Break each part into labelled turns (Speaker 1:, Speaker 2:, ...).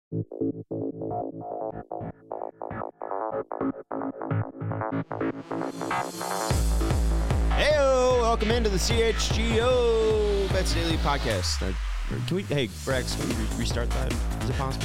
Speaker 1: Heyo, welcome into the CHGO Bets Daily podcast. Can we, hey, Brax, can we restart that? Is it possible?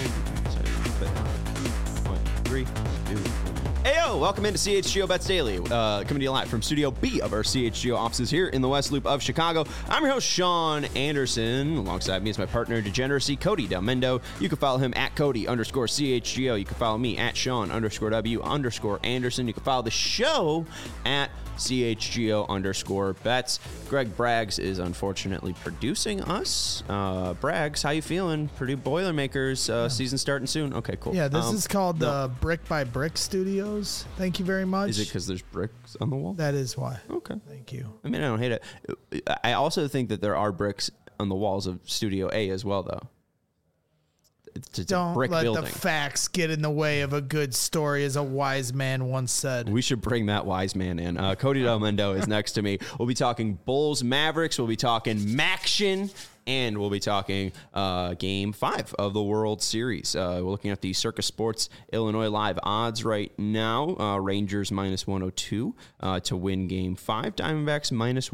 Speaker 1: 3, 2, 1. Heyo, welcome into CHGO Bets Daily, coming to you live from Studio B of our CHGO offices here in the West Loop of Chicago. I'm your host, Sean Anderson. Alongside me is my partner in degeneracy, Cody Del Mendo. You can follow him at Cody_CHGO. You can follow me at Sean_W_Anderson. You can follow the show at CHGO_bets. Greg Braggs is unfortunately producing us. Braggs, how you feeling? Purdue Boilermakers, season starting soon. Okay, cool.
Speaker 2: Yeah, this is called the Brick by Brick Studios. Thank you very much.
Speaker 1: Is it because there's bricks on the wall?
Speaker 2: That is why.
Speaker 1: Okay.
Speaker 2: Thank you.
Speaker 1: I mean, I don't hate it. I also think that there are bricks on the walls of Studio A as well, though. It's
Speaker 2: Don't
Speaker 1: a brick
Speaker 2: let
Speaker 1: building.
Speaker 2: the facts get in the way of a good story, as a wise man once said.
Speaker 1: We should bring that wise man in. Cody Del Mendo is next to me. We'll be talking Bulls Mavericks. We'll be talking Maction. And we'll be talking Game 5 of the World Series. We're looking at the Circus Sports Illinois Live odds right now. Rangers -102 to win Game 5. Diamondbacks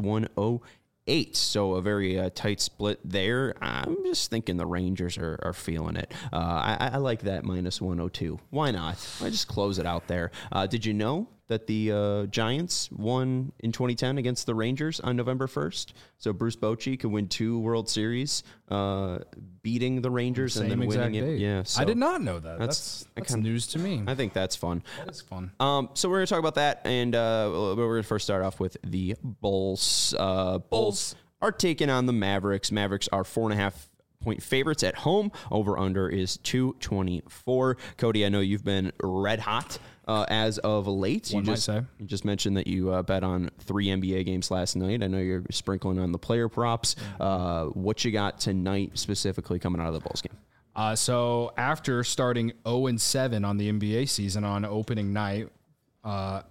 Speaker 1: -108. So a very tight split there. I'm just thinking the Rangers are feeling it. I like that -102. Why not? I just close it out there. Did you know that the Giants won in 2010 against the Rangers on November 1st? So Bruce Bochy could win 2 World Series, beating the Rangers and then winning it. Yeah, so
Speaker 3: I did not know that. That's news to me.
Speaker 1: I think that's fun.
Speaker 3: That is fun.
Speaker 1: So we're going to talk about that, and we're going to first start off with the Bulls. Bulls are taking on the Mavericks. Mavericks are 4.5-point favorites at home. Over-under is 224. Cody, I know you've been red hot as of late. You just mentioned that you bet on 3 NBA games last night. I know you're sprinkling on the player props. What you got tonight specifically coming out of the Bulls game?
Speaker 3: So after starting 0-7 on the NBA season on opening night, I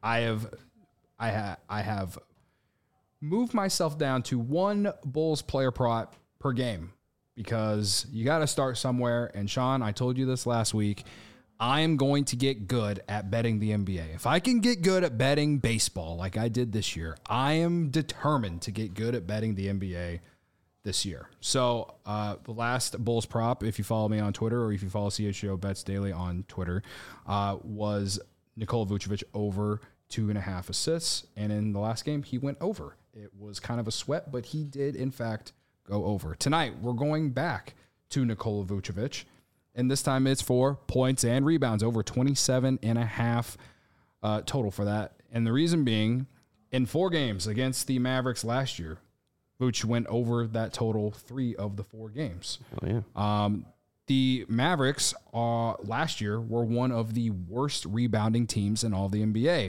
Speaker 3: have moved myself down to 1 Bulls player prop per game, because you got to start somewhere. And Sean, I told you this last week, I am going to get good at betting the NBA. If I can get good at betting baseball like I did this year, I am determined to get good at betting the NBA this year. So the last Bulls prop, if you follow me on Twitter or if you follow CHGO Bets Daily on Twitter, was Nikola Vucevic over 2.5 assists. And in the last game, he went over. It was kind of a sweat, but he did, in fact, go over. Tonight, we're going back to Nikola Vucevic, and this time it's for points and rebounds, over 27.5 total for that. And the reason being, in 4 games against the Mavericks last year, Vuce went over that total 3 of the 4 games.
Speaker 1: Oh, yeah.
Speaker 3: The Mavericks last year were one of the worst rebounding teams in all the NBA.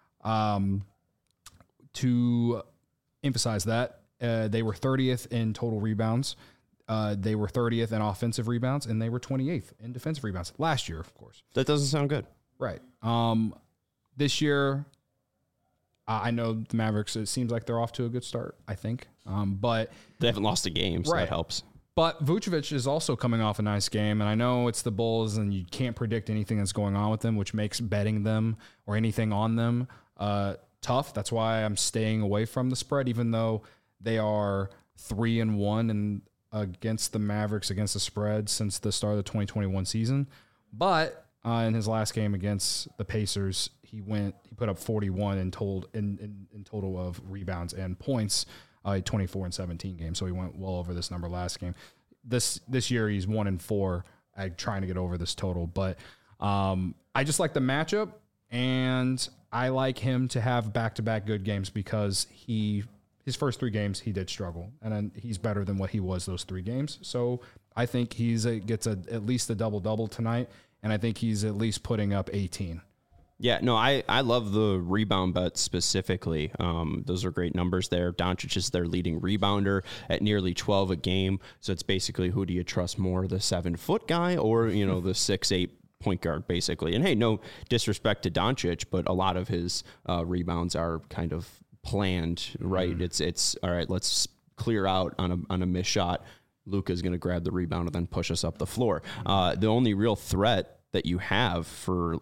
Speaker 3: To emphasize that, they were 30th in total rebounds. They were 30th in offensive rebounds, and they were 28th in defensive rebounds last year, of course.
Speaker 1: That doesn't sound good.
Speaker 3: Right. This year, I know the Mavericks, it seems like they're off to a good start, I think. But
Speaker 1: they haven't lost a game, so that helps.
Speaker 3: But Vucevic is also coming off a nice game, and I know it's the Bulls, and you can't predict anything that's going on with them, which makes betting them or anything on them tough. That's why I'm staying away from the spread, even though they are 3-1 and against the Mavericks against the spread since the start of the 2021 season. But in his last game against the Pacers, he put up 41 in total of rebounds and points, 24 and 17 games. So he went well over this number last game. This year he's 1-4 at trying to get over this total. But I just like the matchup, and I like him to have back-to-back good games, because his first 3 games he did struggle, and then he's better than what he was those 3 games. So I think gets at least a double-double tonight, and I think he's at least putting up 18.
Speaker 1: Yeah, no, I love the rebound bet specifically. Those are great numbers there. Doncic is their leading rebounder at nearly 12 a game. So it's basically, who do you trust more, the 7-foot guy or, the 6'8" point guard, basically? And hey, no disrespect to Doncic, but a lot of his rebounds are kind of planned, right? It's all right, let's clear out on a missed shot. Luka's going to grab the rebound and then push us up the floor. The only real threat that you have for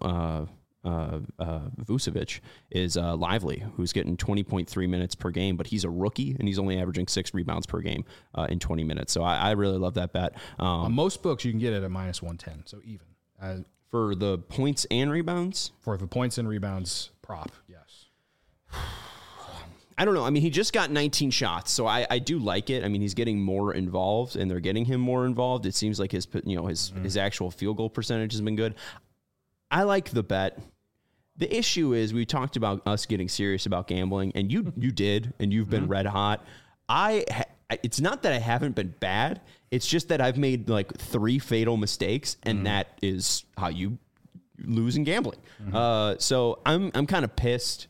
Speaker 1: Vucevic is Lively, who's getting 20.3 minutes per game, but he's a rookie and he's only averaging 6 rebounds per game in 20 minutes. So I really love that bet.
Speaker 3: On most books, you can get it at -110, so even.
Speaker 1: For the points and rebounds?
Speaker 3: For the points and rebounds prop, yes.
Speaker 1: I don't know. I mean, he just got 19 shots, so I do like it. I mean, he's getting more involved, and they're getting him more involved. It seems like his actual field goal percentage has been good. I like the bet. The issue is we talked about us getting serious about gambling, and you did, and you've been red hot. It's not that I haven't been bad. It's just that I've made like 3 fatal mistakes, and that is how you lose in gambling. So I'm kind of pissed.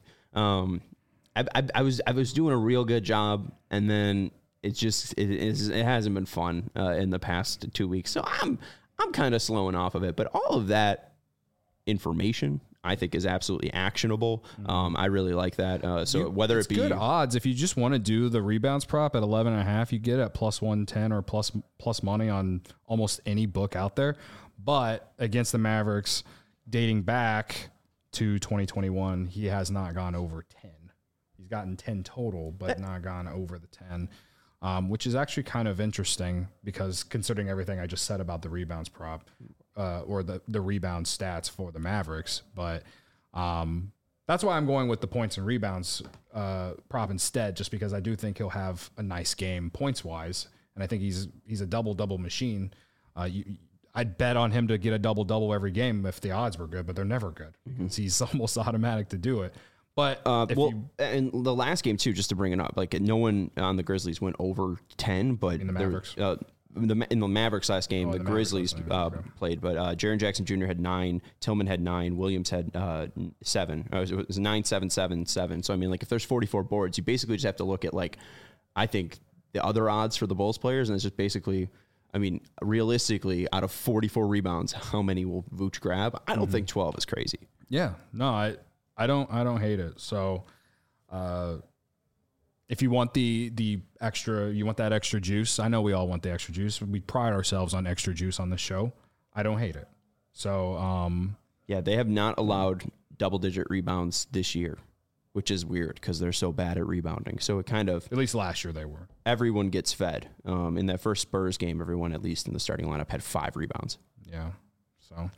Speaker 1: I was doing a real good job, and then it hasn't been fun in the past 2 weeks. So I'm kind of slowing off of it. But all of that information I think is absolutely actionable. I really like that. So whether it be
Speaker 3: good odds, if you just want to do the rebounds prop at 11.5, you get at +110 or plus money on almost any book out there. But against the Mavericks, dating back to 2021, he has not gone over 10. He's gotten 10 total, but not gone over the 10, which is actually kind of interesting because considering everything I just said about the rebounds prop or the rebound stats for the Mavericks. But that's why I'm going with the points and rebounds prop instead, just because I do think he'll have a nice game points-wise, and I think he's a double-double machine. I'd bet on him to get a double-double every game if the odds were good, but they're never good because he's almost automatic to do it. But
Speaker 1: and the last game too, just to bring it up, like no one on the Grizzlies went over 10, but
Speaker 3: in the Mavericks,
Speaker 1: in the Mavericks last game, the Grizzlies played, but Jaren Jackson Jr. had 9, Tillman had 9, Williams had 7. It was 9, 7, 7, 7. So I mean, like if there's 44 boards, you basically just have to look at like I think the other odds for the Bulls players, and it's just basically. I mean, realistically, out of 44 rebounds, how many will Vooch grab? I don't think 12 is crazy.
Speaker 3: Yeah, no, I don't hate it. So, if you want the extra, you want that extra juice. I know we all want the extra juice. We pride ourselves on extra juice on this show. I don't hate it. So,
Speaker 1: yeah, they have not allowed double-digit rebounds this year, which is weird because they're so bad at rebounding. So it kind of...
Speaker 3: At least last year they were.
Speaker 1: Everyone gets fed. In that first Spurs game, everyone, at least in the starting lineup, had 5 rebounds.
Speaker 3: Yeah. So,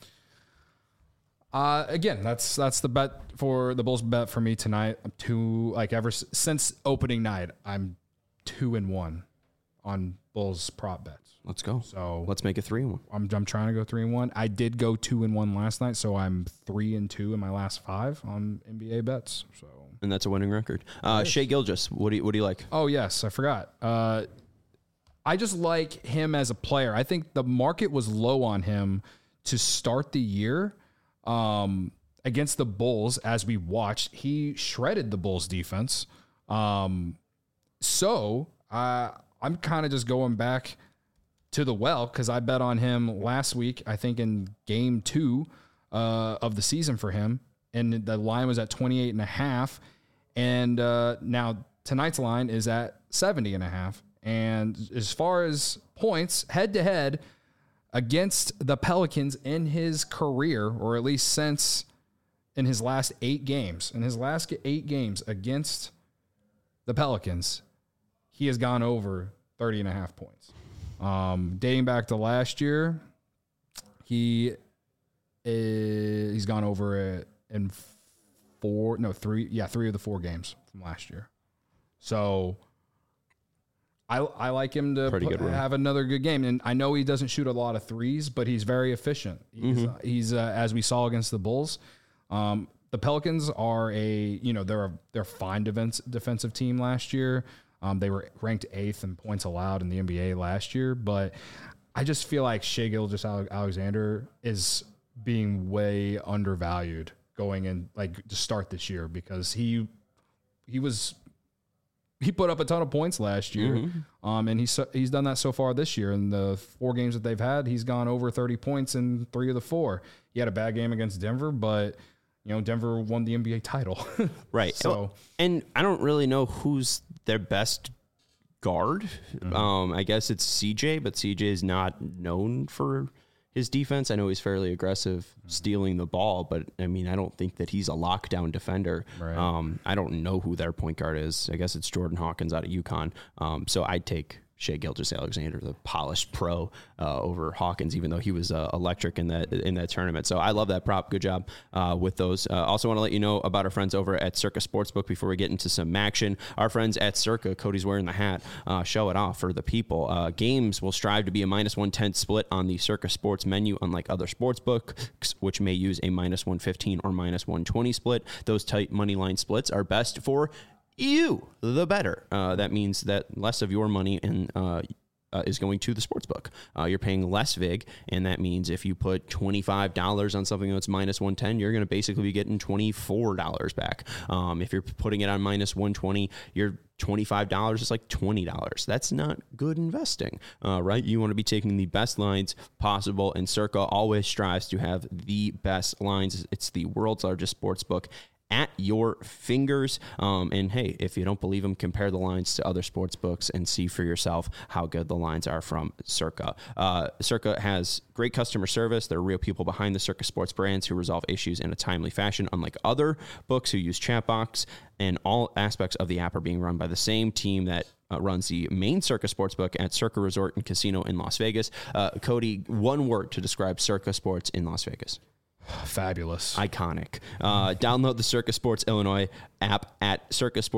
Speaker 3: again, that's the bet for the Bulls bet for me tonight. I'm since opening night, I'm 2-1 on Bulls prop bets.
Speaker 1: Let's go.
Speaker 3: So
Speaker 1: let's make it 3-1.
Speaker 3: I'm trying to go 3-1. I did go 2-1 last night, so I'm 3-2 in my last 5 on NBA bets. So,
Speaker 1: and that's a winning record. Shai Gilgeous, what do you like?
Speaker 3: Oh yes, I forgot. I just like him as a player. I think the market was low on him to start the year against the Bulls. As we watched, he shredded the Bulls defense. So I'm kind of just going back to the well because I bet on him last week, I think in game 2 of the season for him, and the line was at 28.5, and now tonight's line is at 70.5. And as far as points head-to-head against the Pelicans in his career, or at least since in his last 8 games, against the Pelicans, he has gone over 30.5 points. Dating back to last year, he's gone over it in 3 of the 4 games from last year. So I like him to have another good game. And I know he doesn't shoot a lot of threes, but he's very efficient. He's as we saw against the Bulls. The Pelicans are they're a fine defensive team last year. They were ranked 8th in points allowed in the NBA last year, but I just feel like Shai Gilgeous-Alexander is being way undervalued going in to start this year because he put up a ton of points last year, and he's done that so far this year. In the 4 games that they've had, he's gone over 30 points in 3 of the 4. He had a bad game against Denver, but Denver won the NBA title.
Speaker 1: Right.
Speaker 3: So,
Speaker 1: and I don't really know who's their best guard. I guess it's CJ, but CJ is not known for his defense. I know he's fairly aggressive stealing the ball, but I mean, I don't think that he's a lockdown defender.
Speaker 3: Right.
Speaker 1: I don't know who their point guard is. I guess it's Jordan Hawkins out of UConn. So I'd take Shai Gilgeous-Alexander, the polished pro, over Hawkins, even though he was electric in that tournament. So I love that prop. Good job with those. Also want to let you know about our friends over at Circa Sportsbook before we get into some action. Our friends at Circa, Cody's wearing the hat. Show it off for the people. Games will strive to be a -110 split on the Circa Sports menu, unlike other sportsbooks, which may use a -115 or -120 split. Those tight money line splits are best for you, the better. That means that less of your money is going to the sportsbook. You're paying less vig, and that means if you put $25 on something that's -110, you're going to basically be getting $24 back. If you're putting it on -120, you're $25 is like $20. That's not good investing, right? You want to be taking the best lines possible, and Circa always strives to have the best lines. It's the world's largest sports book at your fingers. And hey, if you don't believe them, compare the lines to other sports books and see for yourself how good the lines are from Circa. Circa has great customer service. There are real people behind the Circa Sports brands who resolve issues in a timely fashion, unlike other books who use chatbots. And all aspects of the app are being run by the same team that runs the main Circa Sportsbook at Circa Resort and Casino in Las Vegas. Cody, one word to describe Circa Sports in Las Vegas.
Speaker 3: Fabulous.
Speaker 1: Iconic. Download the Circa Sports Illinois app at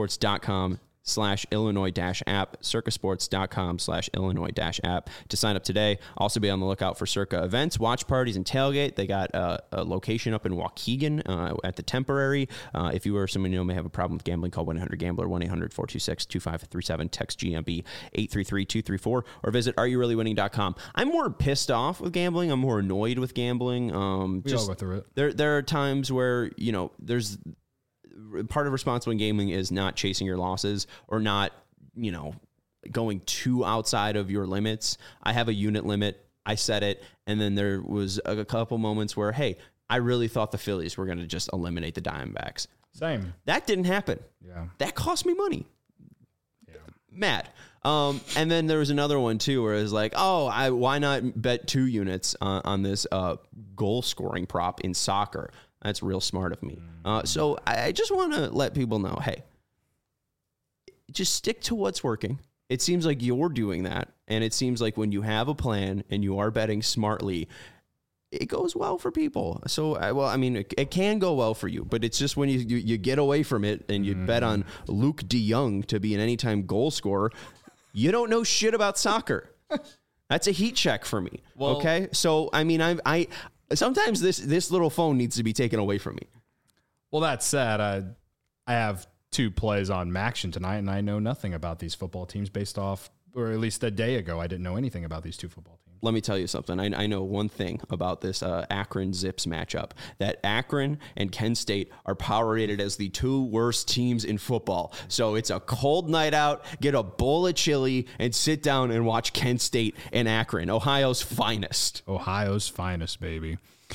Speaker 1: circasports.com/Illinois-app, circasports.com/Illinois-app to sign up today. Also be on the lookout for Circa events, watch parties, and tailgate. They got a location up in Waukegan at the Temporary. If you or someone you know may have a problem with gambling, call 1-800-GAMBLER, 1-800-426-2537, text GMB 833-234, or visit areyoureallywinning.com. I'm more pissed off with gambling. I'm more annoyed with gambling.
Speaker 3: We all go through it.
Speaker 1: There are times where, you know, there's part of responsible gaming is not chasing your losses or not, you know, going too outside of your limits. I have a unit limit. I set it. And then there was a couple moments where, hey, I really thought the Phillies were going to just eliminate the Diamondbacks.
Speaker 3: Same.
Speaker 1: That didn't happen.
Speaker 3: Yeah.
Speaker 1: That cost me money.
Speaker 3: Yeah.
Speaker 1: Mad. And then there was another one too, where it was like, oh, why not bet 2 units on this goal scoring prop in soccer? That's real smart of me. So I just want to let people know, hey, just stick to what's working. It seems like you're doing that. And it seems like when you have a plan and you are betting smartly, it goes well for people. So, it can go well for you, but it's just when you get away from it and you bet on Luke DeJong to be an anytime goal scorer, you don't know shit about soccer. That's a heat check for me. Well, okay. So, I mean, I sometimes this little phone needs to be taken away from me.
Speaker 3: Well, that said, I have 2 plays on Maction tonight, and I know nothing about these football teams based off, or at least a day ago, I didn't know anything about these 2 football teams.
Speaker 1: Let me tell you something. I know one thing about this Akron-Zips matchup, that Akron and Kent State are power rated as the 2 worst teams in football. So it's a cold night out, get a bowl of chili, and sit down and watch Kent State and Akron, Ohio's finest.
Speaker 3: Ohio's finest, baby.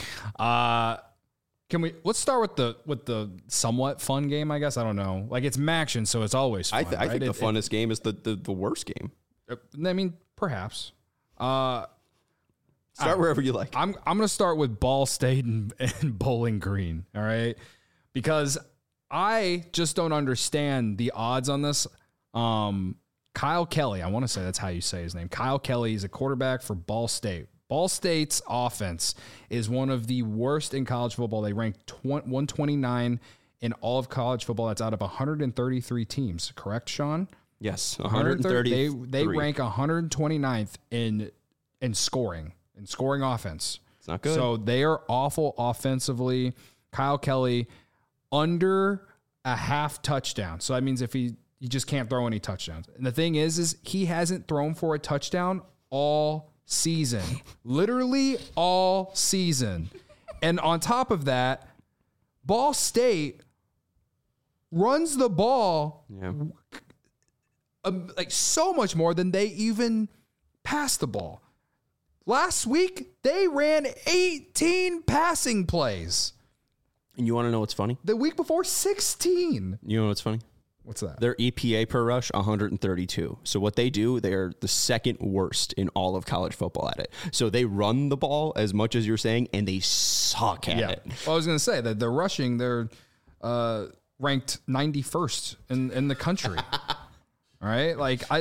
Speaker 3: Let's start with the somewhat fun game, I guess. I don't know. Like, it's Maction, so it's always fun.
Speaker 1: I think the funnest game is the worst game.
Speaker 3: I mean, perhaps.
Speaker 1: Start wherever you like.
Speaker 3: I'm going to start with Ball State and Bowling Green, all right? Because I just don't understand the odds on this. Kyle Kelly, I want to say that's how you say his name. Kyle Kelly is a quarterback for Ball State. Ball State's offense is one of the worst in college football. They rank 129 in all of college football. That's out of 133 teams. Correct, Sean?
Speaker 1: Yes, 130.
Speaker 3: They rank 129th in scoring offense.
Speaker 1: It's not good.
Speaker 3: So they are awful offensively. Kyle Kelly under a half touchdown. So that means if he just can't throw any touchdowns. And the thing is he hasn't thrown for a touchdown all season. Literally all season. And on top of that, Ball State runs the ball like so much more than they even pass the ball. Last week, they ran 18 passing plays.
Speaker 1: And you want to know what's funny?
Speaker 3: The week before, 16.
Speaker 1: You know what's funny?
Speaker 3: What's that?
Speaker 1: Their EPA per rush, 132. So what they do, they're the second worst in all of college football at it. So they run the ball as much as you're saying, and they suck at it.
Speaker 3: Well, I was going to say that they're rushing. They're ranked 91st in the country. All right, like I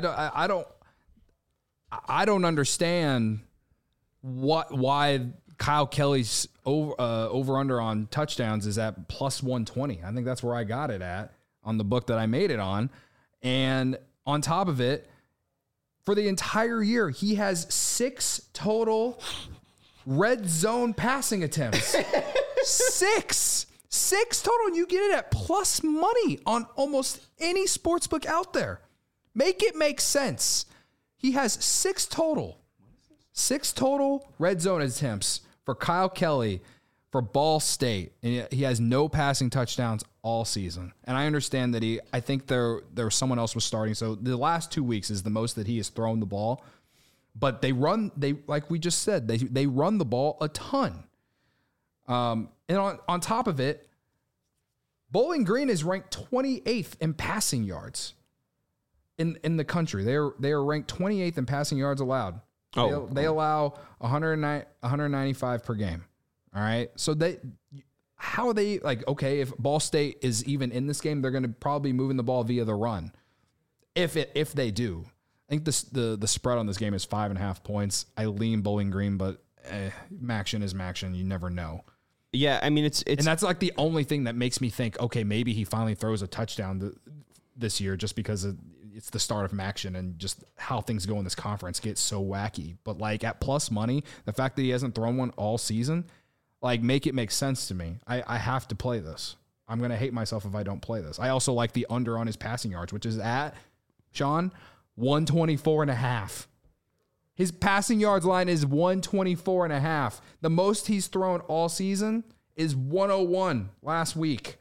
Speaker 3: don't understand why Kyle Kelly's over under on touchdowns is at plus 120. I think that's where I got it at on the book that I made it on. And on top of it, for the entire year, he has 6 total red zone passing attempts. 6 total. And you get it at plus money on almost any sports book out there. Make it make sense. He has 6 total red zone attempts for Kyle Kelly for Ball State, and he has no passing touchdowns all season. And I understand that I think there was someone else was starting. So the last 2 weeks is the most that he has thrown the ball. But they like we just said, they run the ball a ton. And on top of it, Bowling Green is ranked 28th in passing yards in the country. They are ranked 28th in passing yards allowed. They allow 195 per game. All right. So how are they like, okay, if Ball State is even in this game, they're going to probably be moving the ball via the run. If they do, I think the spread on this game is 5.5 points. I lean Bowling Green, but Maction is Maction. You never know.
Speaker 1: Yeah. I mean, it's,
Speaker 3: and that's like the only thing that makes me think, okay, maybe he finally throws a touchdown this year just because it's the start of Maction and just how things go in this conference gets so wacky. But like at plus money, the fact that he hasn't thrown one all season, like make it make sense to me. I have to play this. I'm going to hate myself if I don't play this. I also like the under on his passing yards, which is at, Sean, 124.5. His passing yards line is 124.5. The most he's thrown all season is 101 last week.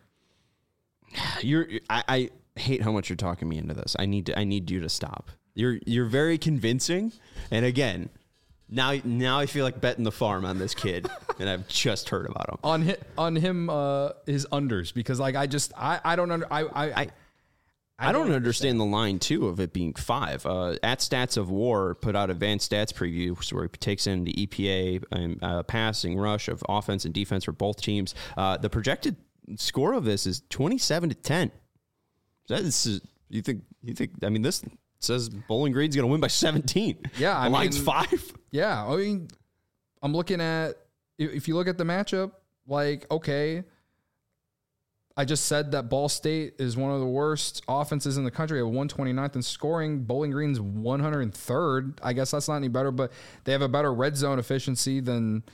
Speaker 1: I hate how much you're talking me into this. I need you to stop. You're very convincing. And again, now I feel like betting the farm on this kid, and I've just heard about him.
Speaker 3: On him his unders, because like I don't understand
Speaker 1: the line too of it being 5. At Stats of War put out advanced stats previews where he takes in the EPA and passing rush of offense and defense for both teams. The projected score of this is 27-10. You think? I mean, this says Bowling Green's going to win by 17.
Speaker 3: Yeah,
Speaker 1: the line's 5.
Speaker 3: Yeah, I mean, I'm looking at if you look at the matchup, like okay, I just said that Ball State is one of the worst offenses in the country at 129th in scoring. Bowling Green's 103rd. I guess that's not any better, but they have a better red zone efficiency than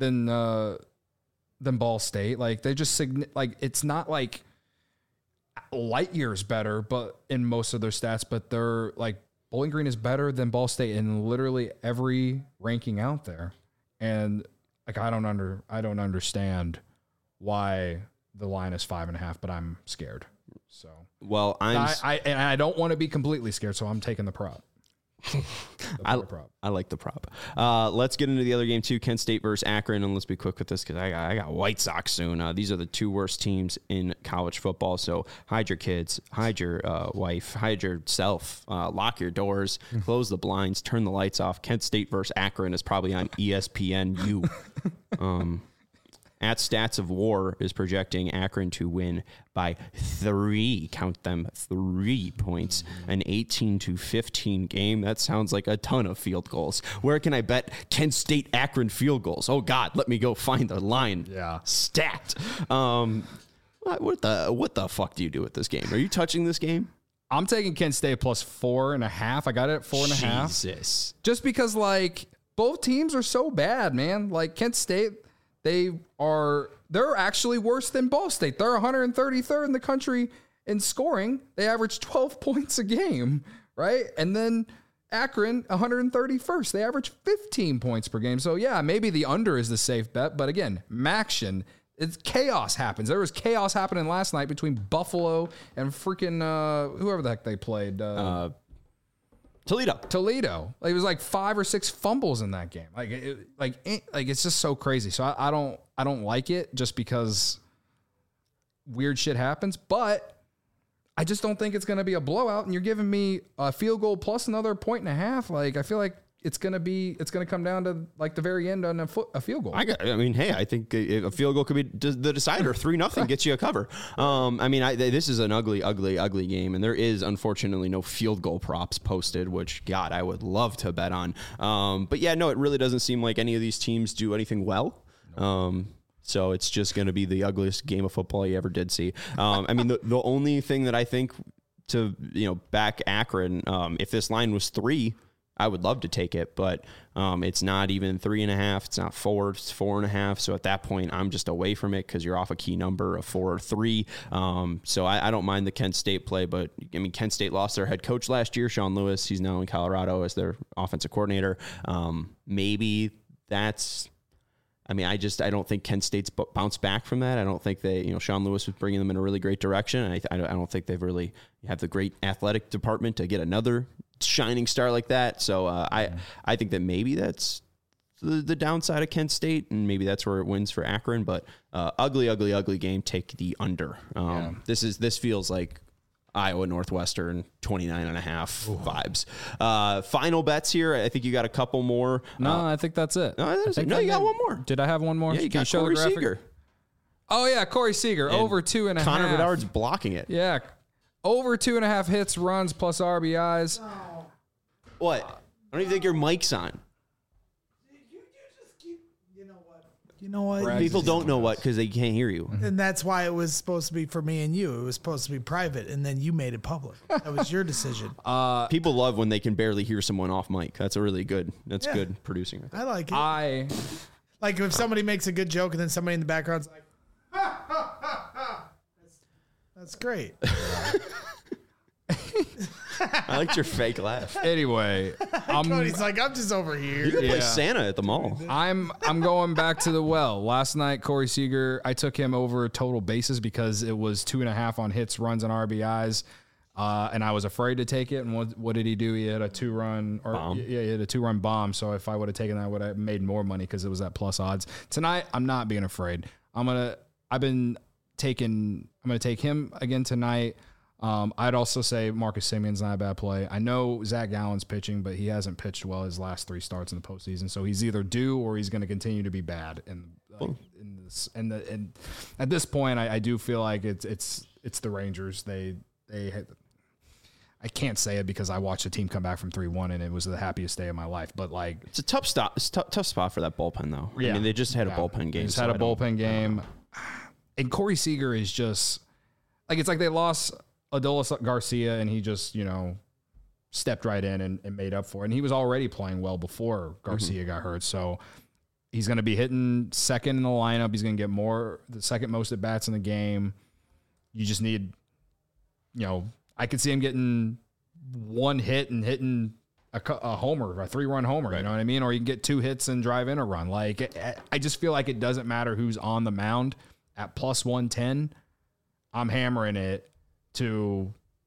Speaker 3: Ball State. Like they just like it's not like light years better, but in most of their stats, but they're like Bowling Green is better than Ball State in literally every ranking out there. And like I don't understand why the line is 5.5, but I'm scared. So
Speaker 1: well,
Speaker 3: I don't want to be completely scared, so I'm taking the prop.
Speaker 1: I like the prop. Let's get into the other game too. Kent State versus Akron, and let's be quick with this because I got White Sox soon. These are the 2 worst teams in college football. So hide your kids, hide your wife, hide yourself, lock your doors, close the blinds, turn the lights off. Kent State versus Akron is probably on ESPNU. At Stats of War is projecting Akron to win by 3, count them, 3 points, an 18-15 game. That sounds like a ton of field goals. Where can I bet Kent State Akron field goals? Oh God, let me go find the line.
Speaker 3: Yeah.
Speaker 1: Stat. What the fuck do you do with this game? Are you touching this game?
Speaker 3: I'm taking Kent State plus 4.5. I got it at 4.5.
Speaker 1: Jesus.
Speaker 3: Just because like both teams are so bad, man. Like Kent State, they're actually worse than Ball State. They're 133rd in the country in scoring. They average 12 points a game, right? And then Akron, 131st. They average 15 points per game. So yeah, maybe the under is the safe bet. But again, Maction, it's chaos happens. There was chaos happening last night between Buffalo and freaking whoever the heck they played. Toledo. Like, it was like 5 or 6 fumbles in that game. Like it's just so crazy. So I don't like it just because weird shit happens. But I just don't think it's going to be a blowout. And you're giving me a field goal plus another 1.5. Like, I feel like it's going to come down to like the very end on a field goal.
Speaker 1: I mean, hey, I think a field goal could be the decider. 3-0 gets you a cover. I mean, this is an ugly game, and there is unfortunately no field goal props posted, which God, I would love to bet on. But yeah, no, it really doesn't seem like any of these teams do anything well. So it's just going to be the ugliest game of football you ever did see. I mean, the only thing that I think to back Akron, if this line was 3. I would love to take it, but it's not even 3.5. It's not 4. It's 4.5. So at that point, I'm just away from it because you're off a key number of 4 or 3. So I don't mind the Kent State play, but I mean, Kent State lost their head coach last year, Sean Lewis. He's now in Colorado as their offensive coordinator. Maybe that's. I mean, I don't think Kent State's bounced back from that. I don't think Sean Lewis was bringing them in a really great direction. I don't think they've really have the great athletic department to get another shining star like that. So I think that maybe that's the downside of Kent State, and maybe that's where it wins for Akron. But ugly game. Take the under. This feels like Iowa Northwestern 29.5 vibes. Final bets here. I think you got a couple more.
Speaker 3: No, I think that's it.
Speaker 1: No, you got one more.
Speaker 3: Did I have one more?
Speaker 1: Yeah, you
Speaker 3: Can
Speaker 1: got
Speaker 3: show
Speaker 1: Corey
Speaker 3: the graphic?
Speaker 1: Seager.
Speaker 3: Oh yeah, Corey Seager over 2.5.
Speaker 1: Connor Bedard's blocking it.
Speaker 3: Yeah, over 2.5 hits, runs plus RBIs.
Speaker 1: What? I don't even think your mic's on.
Speaker 2: You just keep. You know what?
Speaker 1: People don't know what because they can't hear you.
Speaker 2: And that's why it was supposed to be for me and you. It was supposed to be private, and then you made it public. That was your decision.
Speaker 1: People love when they can barely hear someone off mic. That's good producing.
Speaker 2: I like it. Like if somebody makes a good joke and then somebody in the background's like, ha, ha, ha, ha. That's great.
Speaker 1: I liked your fake laugh.
Speaker 3: Anyway,
Speaker 2: Cody's like, I'm just over here.
Speaker 1: You can play Santa at the mall.
Speaker 3: I'm going back to the well. Last night, Corey Seager, I took him over total bases because it was 2.5 on hits, runs, and RBIs. And I was afraid to take it. And what did he do? He had a 2-run bomb. Yeah, he had a 2-run bomb. So if I would have taken that, I would have made more money because it was at plus odds. Tonight, I'm not being afraid. I'm gonna take him again tonight. I'd also say Marcus Simeon's not a bad play. I know Zach Gallen's pitching, but he hasn't pitched well his last 3 starts in the postseason. So he's either due or he's going to continue to be bad. And at this point, I do feel like it's the Rangers. I can't say it because I watched the team come back from 3-1 and it was the happiest day of my life. But like,
Speaker 1: it's a tough stop. It's tough spot for that bullpen though. Yeah. I mean, they just had a bullpen game.
Speaker 3: Just had a bullpen game, and Corey Seager is just like, it's like they lost Adolis Garcia and he just stepped right in and made up for it. And he was already playing well before Garcia got hurt. So he's going to be hitting second in the lineup. He's going to get the second most at bats in the game. You just need, I could see him getting 1 hit and hitting a homer, a 3-run homer, right. You know what I mean? Or you can get 2 hits and drive in a run. Like, I just feel like it doesn't matter who's on the mound at plus 110. I'm hammering it to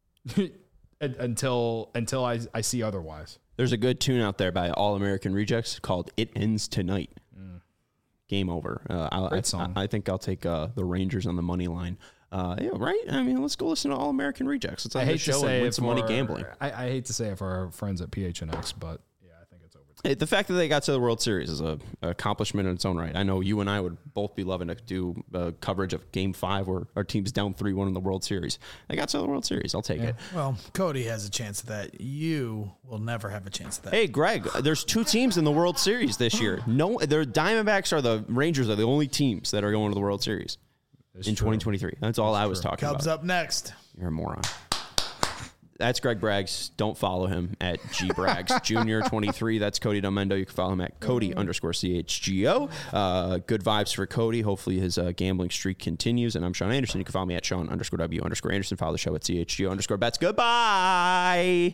Speaker 3: until I see otherwise.
Speaker 1: There's a good tune out there by All American Rejects called "It Ends Tonight." Game over.
Speaker 3: Great song.
Speaker 1: I think I'll take the Rangers on the money line. Yeah, right. I mean, let's go listen to All American Rejects. Let's have a show and win some money gambling.
Speaker 3: I hate to say it for our friends at PHNX, but yeah, I think it's over.
Speaker 1: The fact that they got to the World Series is an accomplishment in its own right. I know you and I would both be loving to do coverage of Game 5 where our team's down 3-1 in the World Series. They got to the World Series. I'll take it.
Speaker 2: Well, Cody has a chance at that. You will never have a chance at that.
Speaker 1: Hey, Greg, there's 2 teams in the World Series this year. No, the Diamondbacks or the Rangers are the only teams that are going to the World Series in 2023. That's all I was talking about.
Speaker 2: Cubs up next.
Speaker 1: You're a moron. That's Greg Braggs. Don't follow him at gbraggs Junior 23. That's Cody Delmendo. You can follow him at Cody_CHGO. Good vibes for Cody. Hopefully his gambling streak continues. And I'm Sean Anderson. You can follow me at Sean_W_Anderson. Follow the show at CHGO_bets. Goodbye.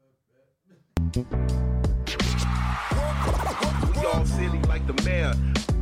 Speaker 4: Y'all silly like the mayor.